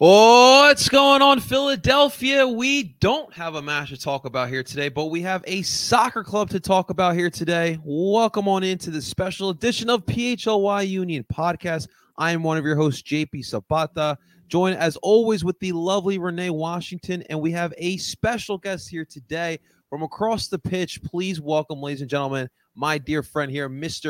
What's going on, Philadelphia? We don't have a match to talk about here today, but we have a soccer club to talk about here today. Welcome on into the special edition of PHLY Union Podcast. I am one of your hosts, JP Zapata, joined as always with the lovely Renee Washington, and we have a special guest here today from across the pitch. Please welcome, ladies and gentlemen, my dear friend here,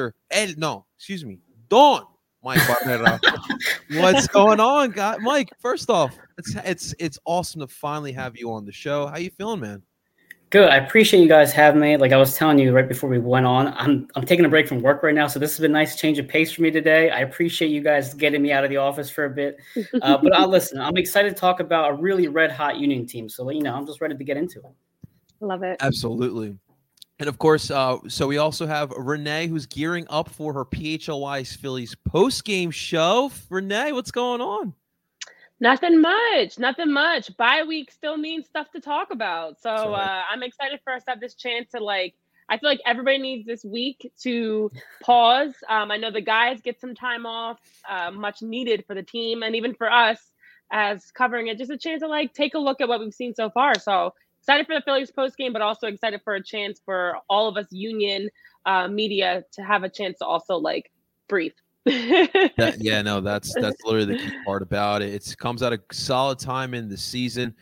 Don Mike Barrera. What's going on, guy? Mike, first off, it's awesome to finally have you on the show. How you feeling, man? Good. I appreciate you guys having me. Like I was telling you right before we went on, I'm taking a break from work right now, so this has been a nice change of pace for me today. I appreciate you guys getting me out of the office for a bit. But I'll listen. I'm excited to talk about a really red-hot Union team, so I'm just ready to get into it. Love it. Absolutely. And of course, so we also have Renee, who's gearing up for her PHLY Phillies post-game show. Renee, what's going on? Nothing much. Bye week still means stuff to talk about. So I'm excited for us to have this chance to I feel like everybody needs this week to pause. I know the guys get some time off, much needed for the team and even for us as covering it, just a chance to take a look at what we've seen so far. So excited for the Phillies post game, but also excited for a chance for all of us Union media to have a chance to also breathe. That's literally the key part about it. It comes at a solid time in the season.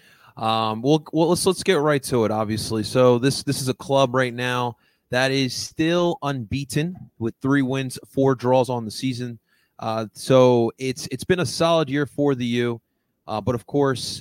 Let's get right to it. Obviously, so this is a club right now that is still unbeaten with 3 wins, 4 draws on the season. So it's been a solid year for the U, but of course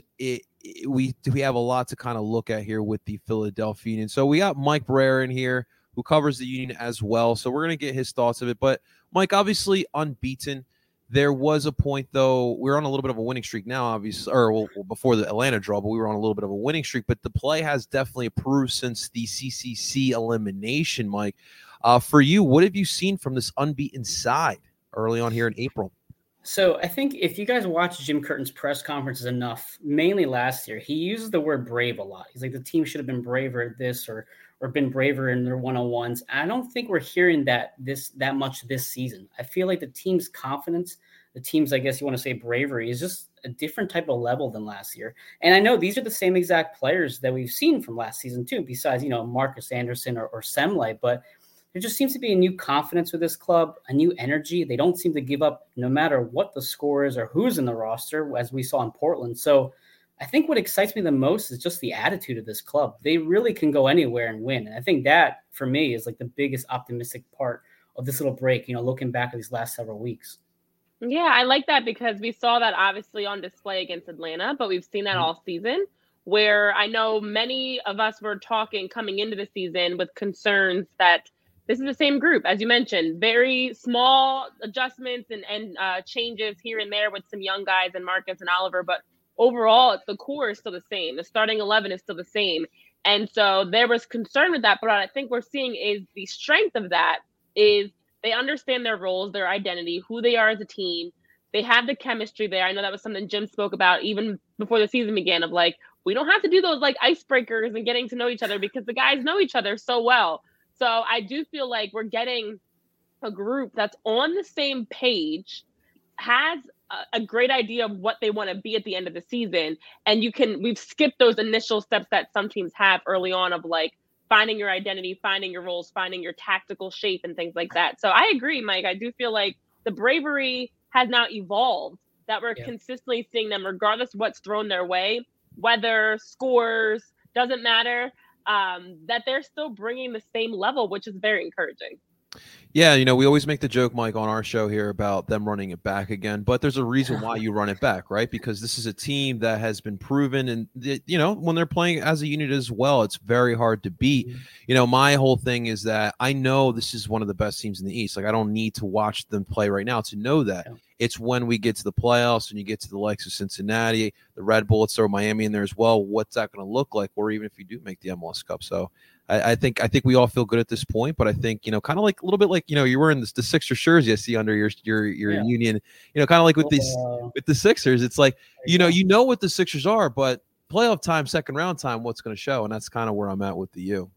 we have a lot to kind of look at here with the Philadelphia Union. So we got Mike Barrera in here who covers the Union as well. So we're going to get his thoughts of it. But Mike, obviously unbeaten. There was a point, though, we're on a little bit of a winning streak now, obviously, before the Atlanta draw, but we were on a little bit of a winning streak. But the play has definitely improved since the CCC elimination, Mike. For you, what have you seen from this unbeaten side early on here in April? So I think if you guys watch Jim Curtin's press conferences enough, mainly last year, he uses the word brave a lot. He's like, the team should have been braver at this or been braver in their one-on-ones. I don't think we're hearing that much this season. I feel like the team's confidence, the team's, I guess you want to say bravery, is just a different type of level than last year. And I know these are the same exact players that we've seen from last season too, besides, Marcus Anderson or Semley, but there just seems to be a new confidence with this club, a new energy. They don't seem to give up no matter what the score is or who's in the roster, as we saw in Portland. So I think what excites me the most is just the attitude of this club. They really can go anywhere and win. And I think that, for me, is the biggest optimistic part of this little break, looking back at these last several weeks. Yeah, I like that because we saw that obviously on display against Atlanta, but we've seen that all season, where I know many of us were talking coming into the season with concerns that this is the same group, as you mentioned, very small adjustments and changes here and there with some young guys and Marcus and Oliver. But overall, the core is still the same. The starting 11 is still the same. And so there was concern with that. But what I think we're seeing is the strength of that is they understand their roles, their identity, who they are as a team. They have the chemistry there. I know that was something Jim spoke about even before the season began of we don't have to do those icebreakers and getting to know each other because the guys know each other so well. So I do feel like we're getting a group that's on the same page, has a great idea of what they want to be at the end of the season. And we've skipped those initial steps that some teams have early on of finding your identity, finding your roles, finding your tactical shape and things like that. So I agree, Mike. I do feel like the bravery has now evolved, that we're consistently seeing them regardless of what's thrown their way, weather, scores, doesn't matter. That they're still bringing the same level, which is very encouraging. Yeah, we always make the joke, Mike, on our show here about them running it back again, but there's a reason why you run it back, right? Because this is a team that has been proven, and when they're playing as a unit as well, it's very hard to beat. My whole thing is that I know this is one of the best teams in the East. I don't need to watch them play right now to know that. It's when we get to the playoffs and you get to the likes of Cincinnati, the Red Bullets, throw Miami in there as well. What's that going to look like? Or even if you do make the MLS Cup. So I think we all feel good at this point, but I think, kind of a little bit you're wearing the Sixers jersey I see under your Union, kind of with the Sixers. It's you know what the Sixers are, but playoff time, second round time, what's going to show. And that's kind of where I'm at with the U.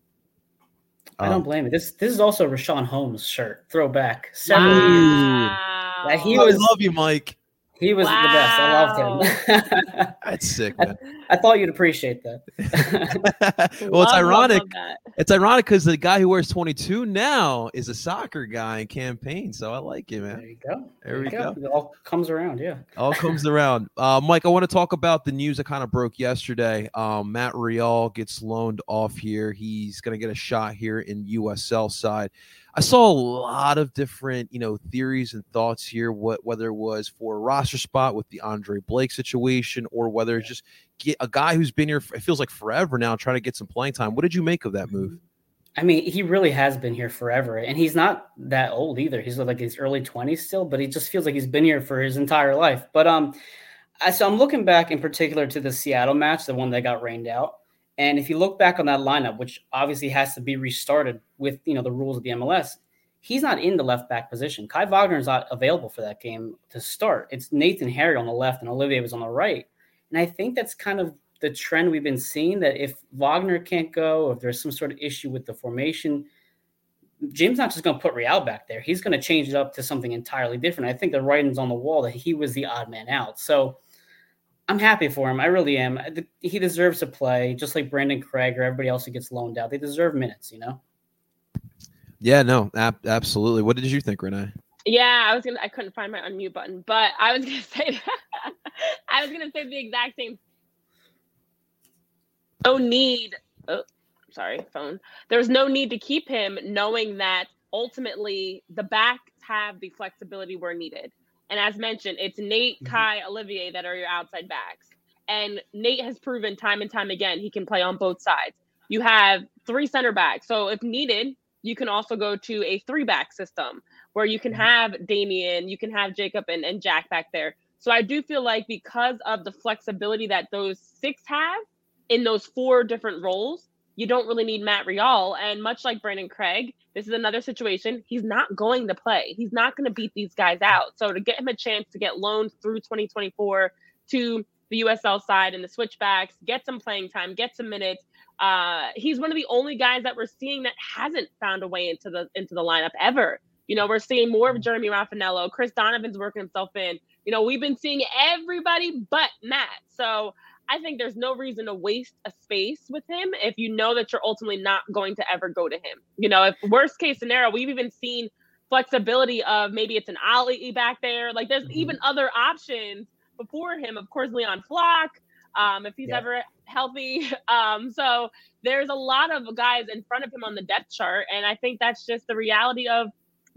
I don't blame it. This is also Rashawn Holmes' shirt, throwback. Wow. I love you, Mike. He was the best. I loved him. That's sick, man. I thought you'd appreciate that. Well, it's ironic. It's ironic because the guy who wears 22 now is a soccer guy in Campaign. So I like it, man. There you go. There we go. It all comes around, yeah. All comes around. Mike, I want to talk about the news that kind of broke yesterday. Matt Rial gets loaned off here. He's going to get a shot here in USL side. I saw a lot of different, theories and thoughts here, whether it was for a roster spot with the Andre Blake situation or whether it's just get a guy who's been here, it feels like forever now, trying to get some playing time. What did you make of that move? I mean, he really has been here forever, and he's not that old either. He's like his early 20s still, but he just feels like he's been here for his entire life. But so I'm looking back in particular to the Seattle match, the one that got rained out. And if you look back on that lineup, which obviously has to be restarted with, the rules of the MLS, he's not in the left back position. Kai Wagner is not available for that game to start. It's Nathan Harry on the left and Olivier was on the right. And I think that's kind of the trend we've been seeing, that if Wagner can't go, or if there's some sort of issue with the formation, Jim's not just going to put Real back there. He's going to change it up to something entirely different. I think the writing's on the wall that he was the odd man out. So I'm happy for him. I really am. He deserves to play, just like Brandon Craig or everybody else who gets loaned out. They deserve minutes, Yeah, no, absolutely. What did you think, Renee? Yeah, I couldn't find my unmute button, but I was gonna say I was gonna say the exact same. No need. Oh, sorry, phone. There's no need to keep him, knowing that ultimately the backs have the flexibility where needed. And as mentioned, it's Nate, Kai, Olivier that are your outside backs. And Nate has proven time and time again he can play on both sides. You have 3 center backs. So if needed, you can also go to a 3-back system where you can have Damian, you can have Jacob and Jack back there. So I do feel like because of the flexibility that those 6 have in those 4 different roles, you don't really need Matt Rial. And much like Brandon Craig, this is another situation. He's not going to play. He's not going to beat these guys out. So to get him a chance to get loaned through 2024 to the USL side and the switchbacks, get some playing time, get some minutes. He's one of the only guys that we're seeing that hasn't found a way into the lineup ever. We're seeing more of Jeremy Raffanello. Chris Donovan's working himself in. We've been seeing everybody but Matt. So I think there's no reason to waste a space with him if you know that you're ultimately not going to ever go to him. If worst case scenario, we've even seen flexibility of maybe it's an Ali back there. Like there's even other options before him. Of course, Leon Flock, if he's ever healthy. So there's a lot of guys in front of him on the depth chart. And I think that's just the reality of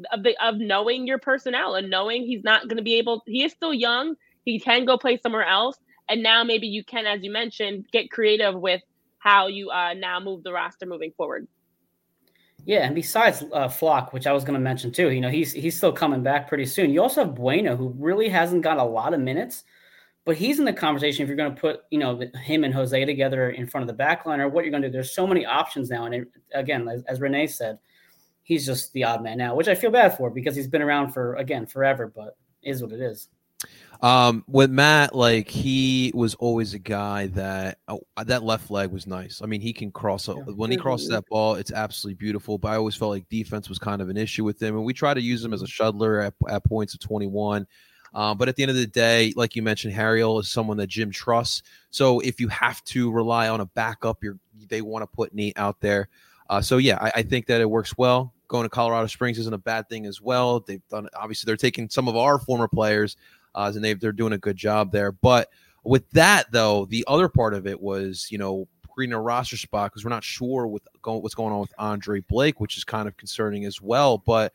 knowing your personnel and knowing he's not going to be able, he is still young. He can go play somewhere else. And now maybe you can, as you mentioned, get creative with how you now move the roster moving forward. Yeah, and besides Flock, which I was going to mention too, he's still coming back pretty soon. You also have Bueno, who really hasn't got a lot of minutes, but he's in the conversation if you're going to put, him and Jose together in front of the back line or what you're going to do. There's so many options now. And again, as Renee said, he's just the odd man now, which I feel bad for because he's been around forever, but it is what it is. With Matt, like he was always a guy that that left leg was nice. I mean, he can cross when he crosses that ball, it's absolutely beautiful. But I always felt like defense was kind of an issue with him, and we try to use him as a shuttler at points of 21. But at the end of the day, like you mentioned, Harriel is someone that Jim trusts. So if you have to rely on a backup, they want to put Nate out there. So yeah, I think that it works well. Going to Colorado Springs isn't a bad thing as well. They've done obviously they're taking some of our former players. And they're doing a good job there. But with that, though, the other part of it was, creating a roster spot because we're not sure what's going on with Andre Blake, which is kind of concerning as well. But,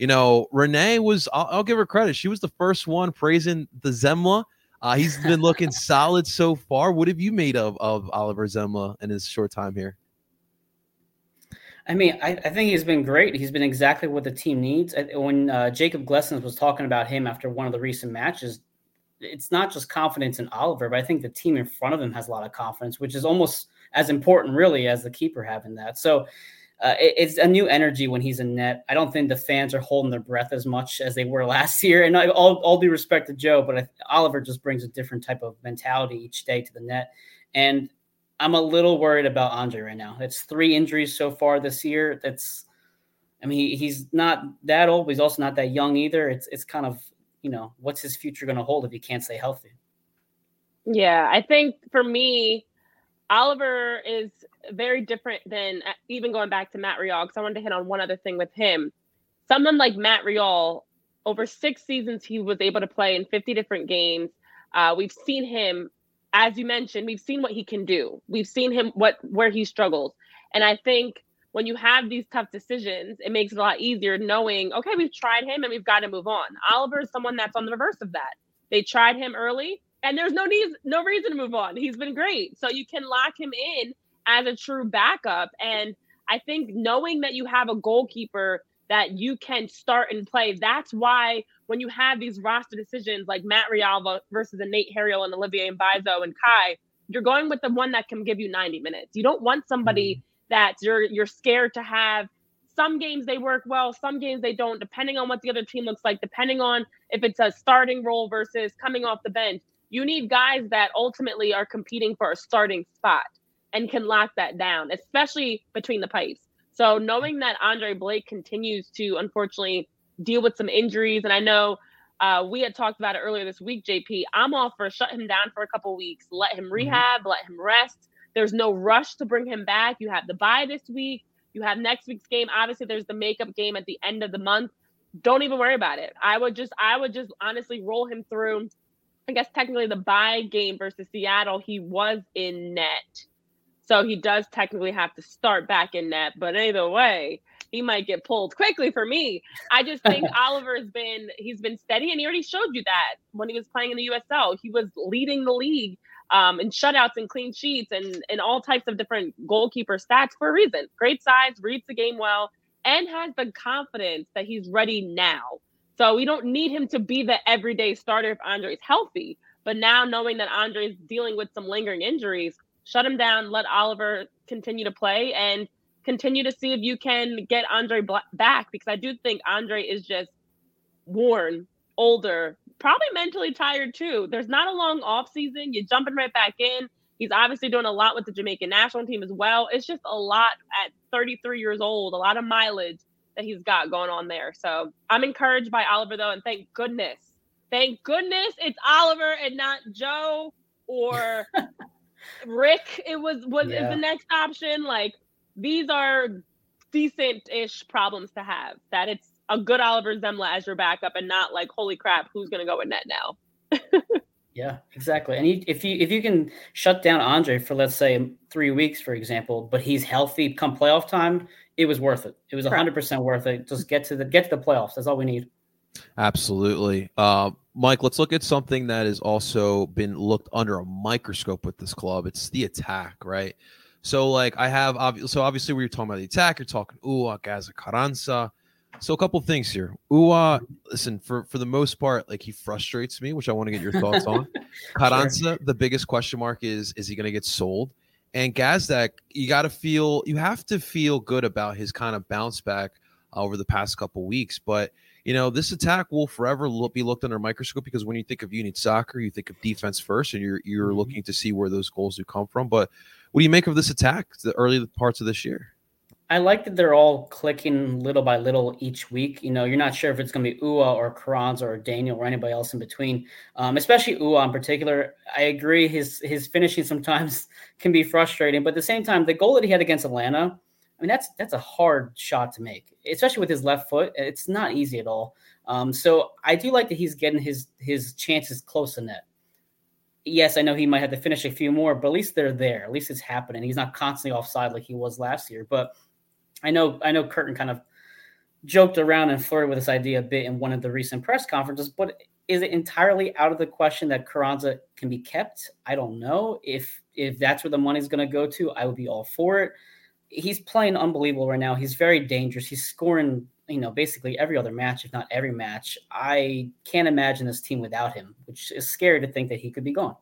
Renee was – I'll give her credit. She was the first one praising the Zemla. He's been looking solid so far. What have you made of Oliver Zemla in his short time here? I mean, I think he's been great. He's been exactly what the team needs. When Jacob Glessens was talking about him after one of the recent matches, it's not just confidence in Oliver, but I think the team in front of him has a lot of confidence, which is almost as important, really, as the keeper having that. So it's a new energy when he's in net. I don't think the fans are holding their breath as much as they were last year. And all due respect to Joe, but Oliver just brings a different type of mentality each day to the net. And I'm a little worried about Andre right now. It's 3 injuries so far this year. He's not that old, but he's also not that young either. It's kind of what's his future going to hold if he can't stay healthy? Yeah, I think for me, Oliver is very different than even going back to Matt Rial, because I wanted to hit on one other thing with him. Someone like Matt Rial, over 6 seasons, he was able to play in 50 different games. We've seen him, as you mentioned, we've seen what he can do. We've seen him where he struggles. And I think when you have these tough decisions, it makes it a lot easier knowing, okay, we've tried him and we've got to move on. Oliver is someone that's on the reverse of that. They tried him early and there's no reason to move on. He's been great. So you can lock him in as a true backup. And I think knowing that you have a goalkeeper that you can start and play, that's why when you have these roster decisions like Matt Rial versus a Nate Harriel and Olivier Mbaizo and Kai, you're going with the one that can give you 90 minutes. You don't want somebody that you're scared to have. Some games they work well, some games they don't, depending on what the other team looks like, depending on if it's a starting role versus coming off the bench. You need guys that ultimately are competing for a starting spot and can lock that down, especially between the pipes. So knowing that Andre Blake continues to, unfortunately, deal with some injuries, and I know we had talked about it earlier this week, JP, I'm all for shut him down for a couple of weeks, let him rehab, let him rest. There's no rush to bring him back. You have the bye this week. You have next week's game. Obviously, there's the makeup game at the end of the month. Don't even worry about it. I would just honestly roll him through. I guess technically the bye game versus Seattle, he was in net. So he does technically have to start back in net. But either way, he might get pulled quickly for me. I just think Oliver's been steady, and he already showed you that when he was playing in the USL. He was leading the league in shutouts and clean sheets and all types of different goalkeeper stats for a reason. Great size, reads the game well, and has the confidence that he's ready now. So we don't need him to be the everyday starter if Andre's healthy. But now knowing that Andre's dealing with some lingering injuries, shut him down, let Oliver continue to play, and continue to see if you can get Andre back, because I do think Andre is just worn, older, probably mentally tired too. There's not a long off season. You're jumping right back in. He's obviously doing a lot with the Jamaican national team as well. It's just a lot at 33 years old, a lot of mileage that he's got going on there. So I'm encouraged by Oliver though, and thank goodness it's Oliver and not Joe or Rick. Is the next option. Like, these are decent-ish problems to have, that it's a good Oliver Zemla as your backup and not like, holy crap, who's going to go in net now? Yeah, exactly. And if you can shut down Andre for, let's say, 3 weeks, for example, but he's healthy come playoff time, it was worth it. It was 100% worth it. Just get to the playoffs. That's all we need. Absolutely. Mike, let's look at something that has also been looked under a microscope with this club. It's the attack, right? So, like, obviously we were talking about the attack. You're talking Uhre, Gaza, Carranza. So a couple of things here. Uhre, listen, for the most part, like, he frustrates me, which I want to get your thoughts on. Carranza, the biggest question mark is he going to get sold? And Gazdak, you have to feel good about his kind of bounce back over the past couple weeks. But, this attack will forever be looked under a microscope, because when you think of Unit Soccer, you think of defense first, and you're looking to see where those goals do come from. But what do you make of this attack, the early parts of this year? I like that they're all clicking little by little each week. You're not sure if it's going to be Uhre or Carranza or Daniel or anybody else in between, especially Uhre in particular. I agree his finishing sometimes can be frustrating, but at the same time, the goal that he had against Atlanta, I mean, that's a hard shot to make, especially with his left foot. It's not easy at all. So I do like that he's getting his chances close to net. Yes, I know he might have to finish a few more, but at least they're there. At least it's happening. He's not constantly offside like he was last year. But I know Curtin kind of joked around and flirted with this idea a bit in one of the recent press conferences, but is it entirely out of the question that Carranza can be kept? I don't know. If that's where the money's going to go to, I would be all for it. He's playing unbelievable right now. He's very dangerous. He's scoring, basically every other match, if not every match. I can't imagine this team without him, which is scary to think that he could be gone.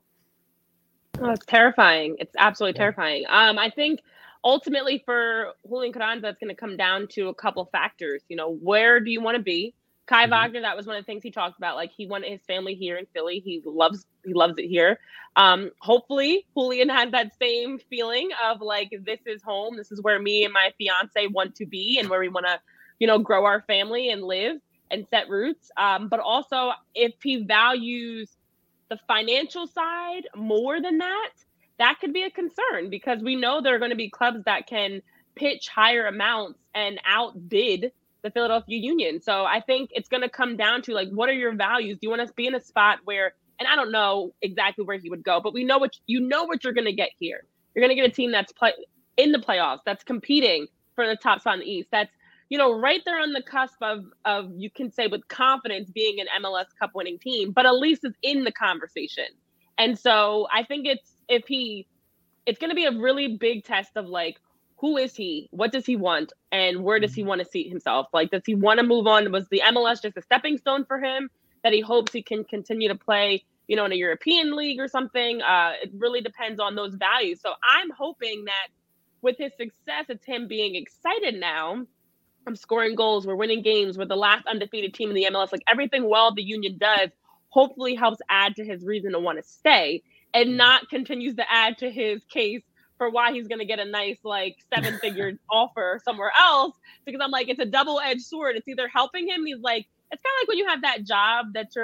Oh, it's terrifying. It's absolutely terrifying. I think ultimately for Julian Carranza, it's going to come down to a couple factors. Where do you want to be? Kai Wagner, that was one of the things he talked about. Like, he wanted his family here in Philly. He loves it here. Hopefully Julian had that same feeling of like, this is home. This is where me and my fiance want to be and where we want to, grow our family and live. and set roots. But also, if he values the financial side more than that, that could be a concern, because we know there are going to be clubs that can pitch higher amounts and outbid the Philadelphia Union. So I think it's going to come down to, like, what are your values? Do you want to be in a spot where, and I don't know exactly where he would go, but we know what you're going to get here. You're going to get a team that's in the playoffs, that's competing for the top spot in the East. That's, right there on the cusp of you can say with confidence being an MLS Cup winning team, but at least it's in the conversation. And so I think it's going to be a really big test of, like, who is he? What does he want? And where does he want to see himself? Like, does he want to move on? Was the MLS just a stepping stone for him that he hopes he can continue to play, in a European league or something? It really depends on those values. So I'm hoping that with his success, it's him being excited now. I'm scoring goals. We're winning games. We're the last undefeated team in the MLS. Like, everything well the Union does hopefully helps add to his reason to want to stay, and not continues to add to his case for why he's going to get a nice, like, 7-figure offer somewhere else. Because I'm like, it's a double-edged sword. It's either helping him. He's like, it's kind of like when you have that job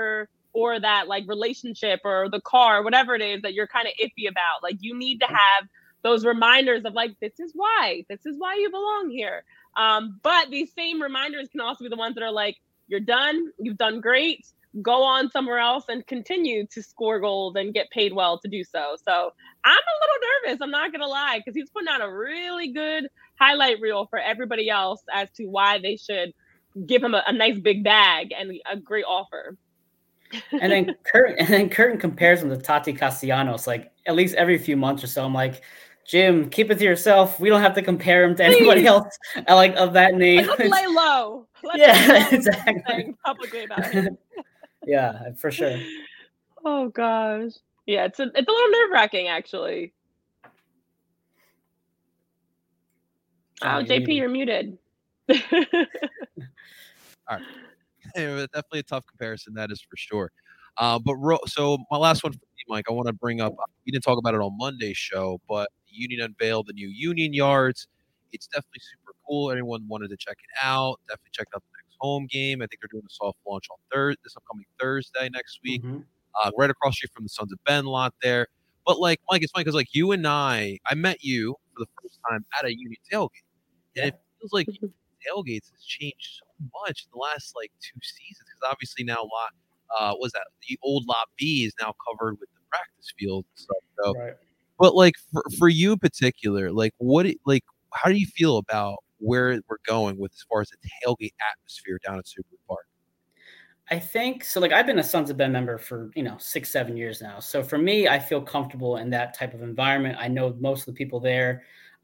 or that, like, relationship or the car, whatever it is that you're kind of iffy about. Like, you need to have those reminders of, like, this is why you belong here. But these same reminders can also be the ones that are like, you're done. You've done great. Go on somewhere else and continue to score goals and get paid well to do so. So I'm a little nervous, I'm not going to lie, because he's putting out a really good highlight reel for everybody else as to why they should give him a nice big bag and a great offer. And then Curtin compares him to Tati Castellanos, like, at least every few months or so. I'm like, Jim, keep it to yourself. We don't have to compare him to anybody else of that name. Let's lay low. Exactly. Publicly about him. Yeah, for sure. Oh gosh. Yeah, it's a little nerve-wracking, actually. Oh, JP, you're muted. All right. Definitely a tough comparison, that is for sure. So my last one for you, Mike, I want to bring up, we didn't talk about it on Monday's show, but the Union unveiled the new Union Yards. It's definitely super cool. Anyone wanted to check it out, definitely check out the next home game. I think they're doing a soft launch on this upcoming Thursday next week. Right across the street from the Sons of Ben lot there. But, like, Mike, it's funny because, like, you and I met you for the first time at a Union tailgate. And it feels like tailgates has changed so much in the last, like, 2 seasons. Because obviously now the old Lot B is now covered with the practice field and stuff. So, right. But, like, for you in particular, like, how do you feel about where we're going with as far as the tailgate atmosphere down at Super Park? I think so. Like, I've been a Sons of Ben member for 6-7 years now. So for me, I feel comfortable in that type of environment. I know most of the people there.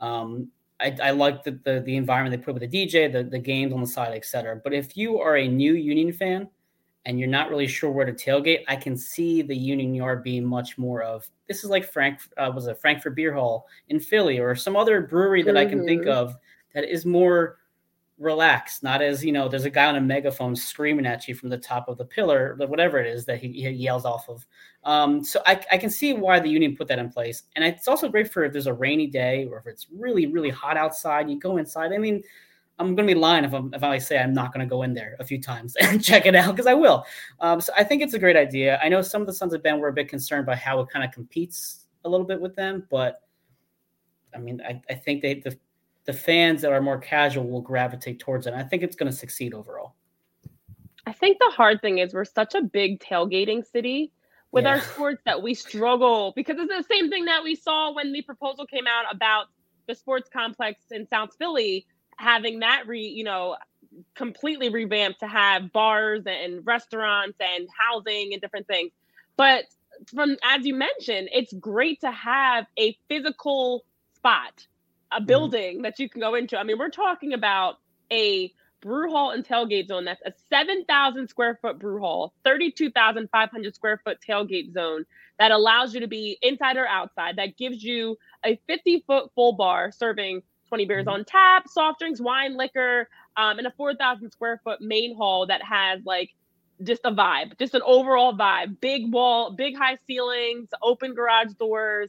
I like the environment they put with the DJ, the games on the side, etc. But if you are a new Union fan and you're not really sure where to tailgate, I can see the Union Yard being much more of, this is like Frankfurt Beer Hall in Philly or some other brewery that I can think of that is more relaxed, not as, there's a guy on a megaphone screaming at you from the top of the pillar, whatever it is that he yells off of. So I can see why the Union put that in place. And it's also great for if there's a rainy day or if it's really, really hot outside, you go inside. I mean, I'm going to be lying if I say I'm not going to go in there a few times and check it out, because I will. So I think it's a great idea. I know some of the Sons of Ben were a bit concerned by how it kind of competes a little bit with them, but I mean, I think the fans that are more casual will gravitate towards it. And I think it's going to succeed overall. I think the hard thing is we're such a big tailgating city with our sports that we struggle, because it's the same thing that we saw when the proposal came out about the sports complex in South Philly, having that completely revamped to have bars and restaurants and housing and different things. But as you mentioned, it's great to have a physical spot, a building that you can go into. I mean, we're talking about a brew hall and tailgate zone that's a 7,000 square foot brew hall, 32,500 square foot tailgate zone that allows you to be inside or outside, that gives you a 50-foot full bar serving 20 beers on tap, soft drinks, wine, liquor, and a 4,000 square foot main hall that has, like, just a vibe, just an overall vibe. Big wall, big high ceilings, open garage doors,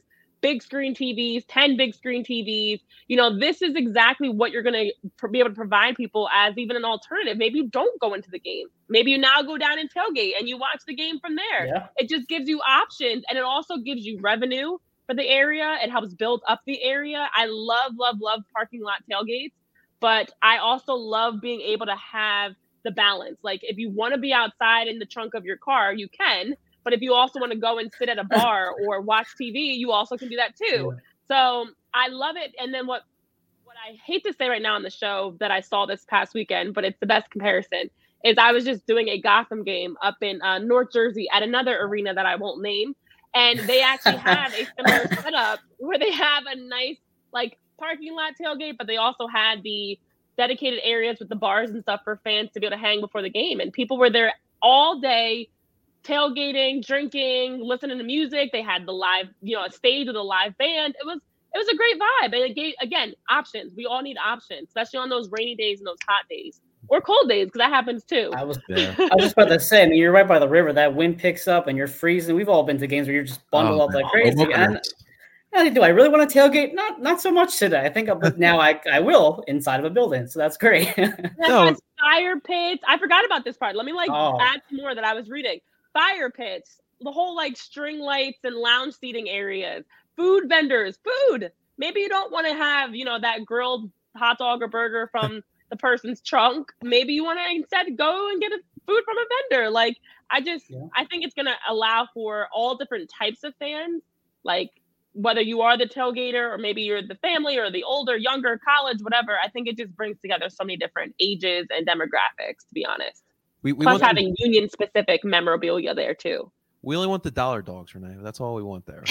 big screen TVs, 10 big screen TVs. This is exactly what you're going to be able to provide people as even an alternative. Maybe you don't go into the game. Maybe you now go down and tailgate and you watch the game from there. Yeah. It just gives you options, and it also gives you revenue for the area. It helps build up the area. I love parking lot tailgates, but I also love being able to have the balance. Like, if you want to be outside in the trunk of your car, you can. But if you also want to go and sit at a bar or watch TV, you also can do that too. Yeah. So I love it. And then what I hate to say right now on the show that I saw this past weekend, but it's the best comparison, is I was just doing a Gotham game up in North Jersey at another arena that I won't name. And they actually have a similar setup where they have a nice like parking lot tailgate, but they also had the dedicated areas with the bars and stuff for fans to be able to hang before the game. And people were there all day, tailgating, drinking, listening to music. They had the live, a stage with a live band. It was a great vibe. And it gave, again, options. We all need options, especially on those rainy days and those hot days or cold days, because that happens too. I was just about to say, I mean, you're right by the river. That wind picks up and you're freezing. We've all been to games where you're just bundled up like crazy. And do I really want to tailgate? Not so much today. I think now I will inside of a building. So that's great. No. Fire pits. I forgot about this part. Let me add some more that I was reading. Fire pits, the whole string lights and lounge seating areas, food vendors, food. Maybe you don't want to have, that grilled hot dog or burger from the person's trunk. Maybe you want to instead go and get food from a vendor. I think it's going to allow for all different types of fans, whether you are the tailgater or maybe you're the family or the older, younger, college, whatever. I think it just brings together so many different ages and demographics, to be honest. Plus having union-specific memorabilia there, too. We only want the dollar dogs, Renee. That's all we want there.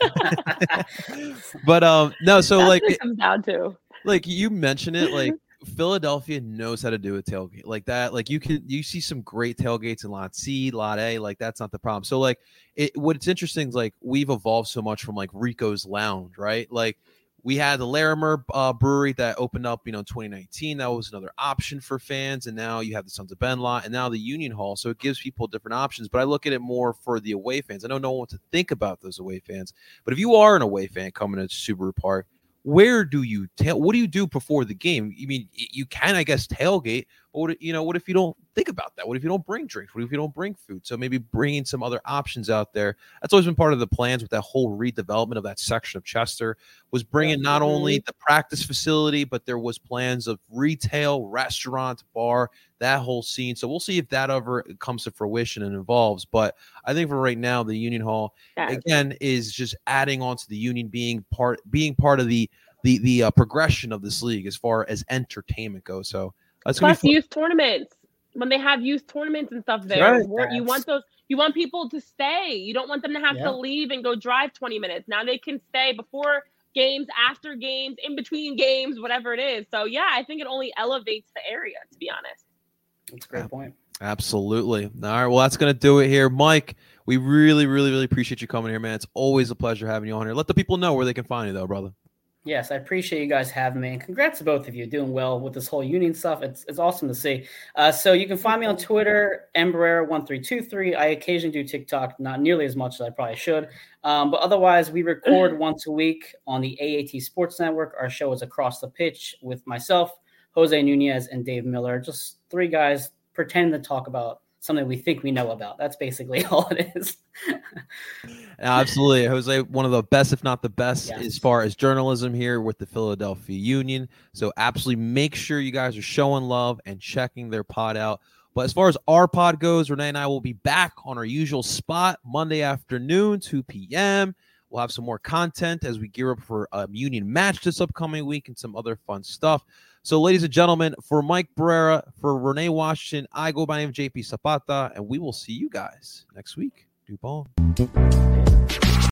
Okay? But, no, so, it comes down to. You mentioned it, Philadelphia knows how to do a tailgate like that. You see some great tailgates in Lot C, Lot A. That's not the problem. So what's interesting is we've evolved so much from Rico's Lounge, right? We had the Larimer Brewery that opened up, in 2019. That was another option for fans. And now you have the Sons of Ben lot and now the Union Hall. So it gives people different options. But I look at it more for the away fans. I know no one wants to think about those away fans. But if you are an away fan coming to Subaru Park, where do you what do you do before the game? I mean, you can, I guess, tailgate, but what if you don't think about that? What if you don't bring drinks? What if you don't bring food? So maybe bringing some other options out there. That's always been part of the plans with that whole redevelopment of that section of Chester, was bringing not only the practice facility, but there was plans of retail, restaurant, bar, that whole scene. So we'll see if that ever comes to fruition and evolves. But I think for right now, the Union Hall, again, is just adding on to the Union being part of the progression of this league as far as entertainment goes. So plus youth tournaments, when they have youth tournaments and stuff there, you want people to stay. You don't want them to have to leave and go drive 20 minutes. Now they can stay before games, after games, in between games, whatever it is. So I think it only elevates the area, to be honest. That's a great point. Absolutely. All right. Well, that's going to do it here. Mike, we really, really, really appreciate you coming here, man. It's always a pleasure having you on here. Let the people know where they can find you, though, brother. Yes, I appreciate you guys having me. And congrats to both of you doing well with this whole Union stuff. It's awesome to see. So you can find me on Twitter, Mbarrera1323. I occasionally do TikTok, not nearly as much as I probably should. But otherwise, we record once a week on the AAT Sports Network. Our show is Across the Pitch with myself, Jose Nunez, and Dave Miller. Just three guys pretending to talk about something we think we know about. That's basically all it is. Absolutely. Jose, one of the best, if not the best, as far as journalism here with the Philadelphia Union. So absolutely make sure you guys are showing love and checking their pod out. But as far as our pod goes, Renee and I will be back on our usual spot Monday afternoon, 2 p.m. We'll have some more content as we gear up for a Union match this upcoming week and some other fun stuff. So, ladies and gentlemen, for Mike Barrera, for Renee Washington, I go by the name of JP Zapata, and we will see you guys next week. Do ball.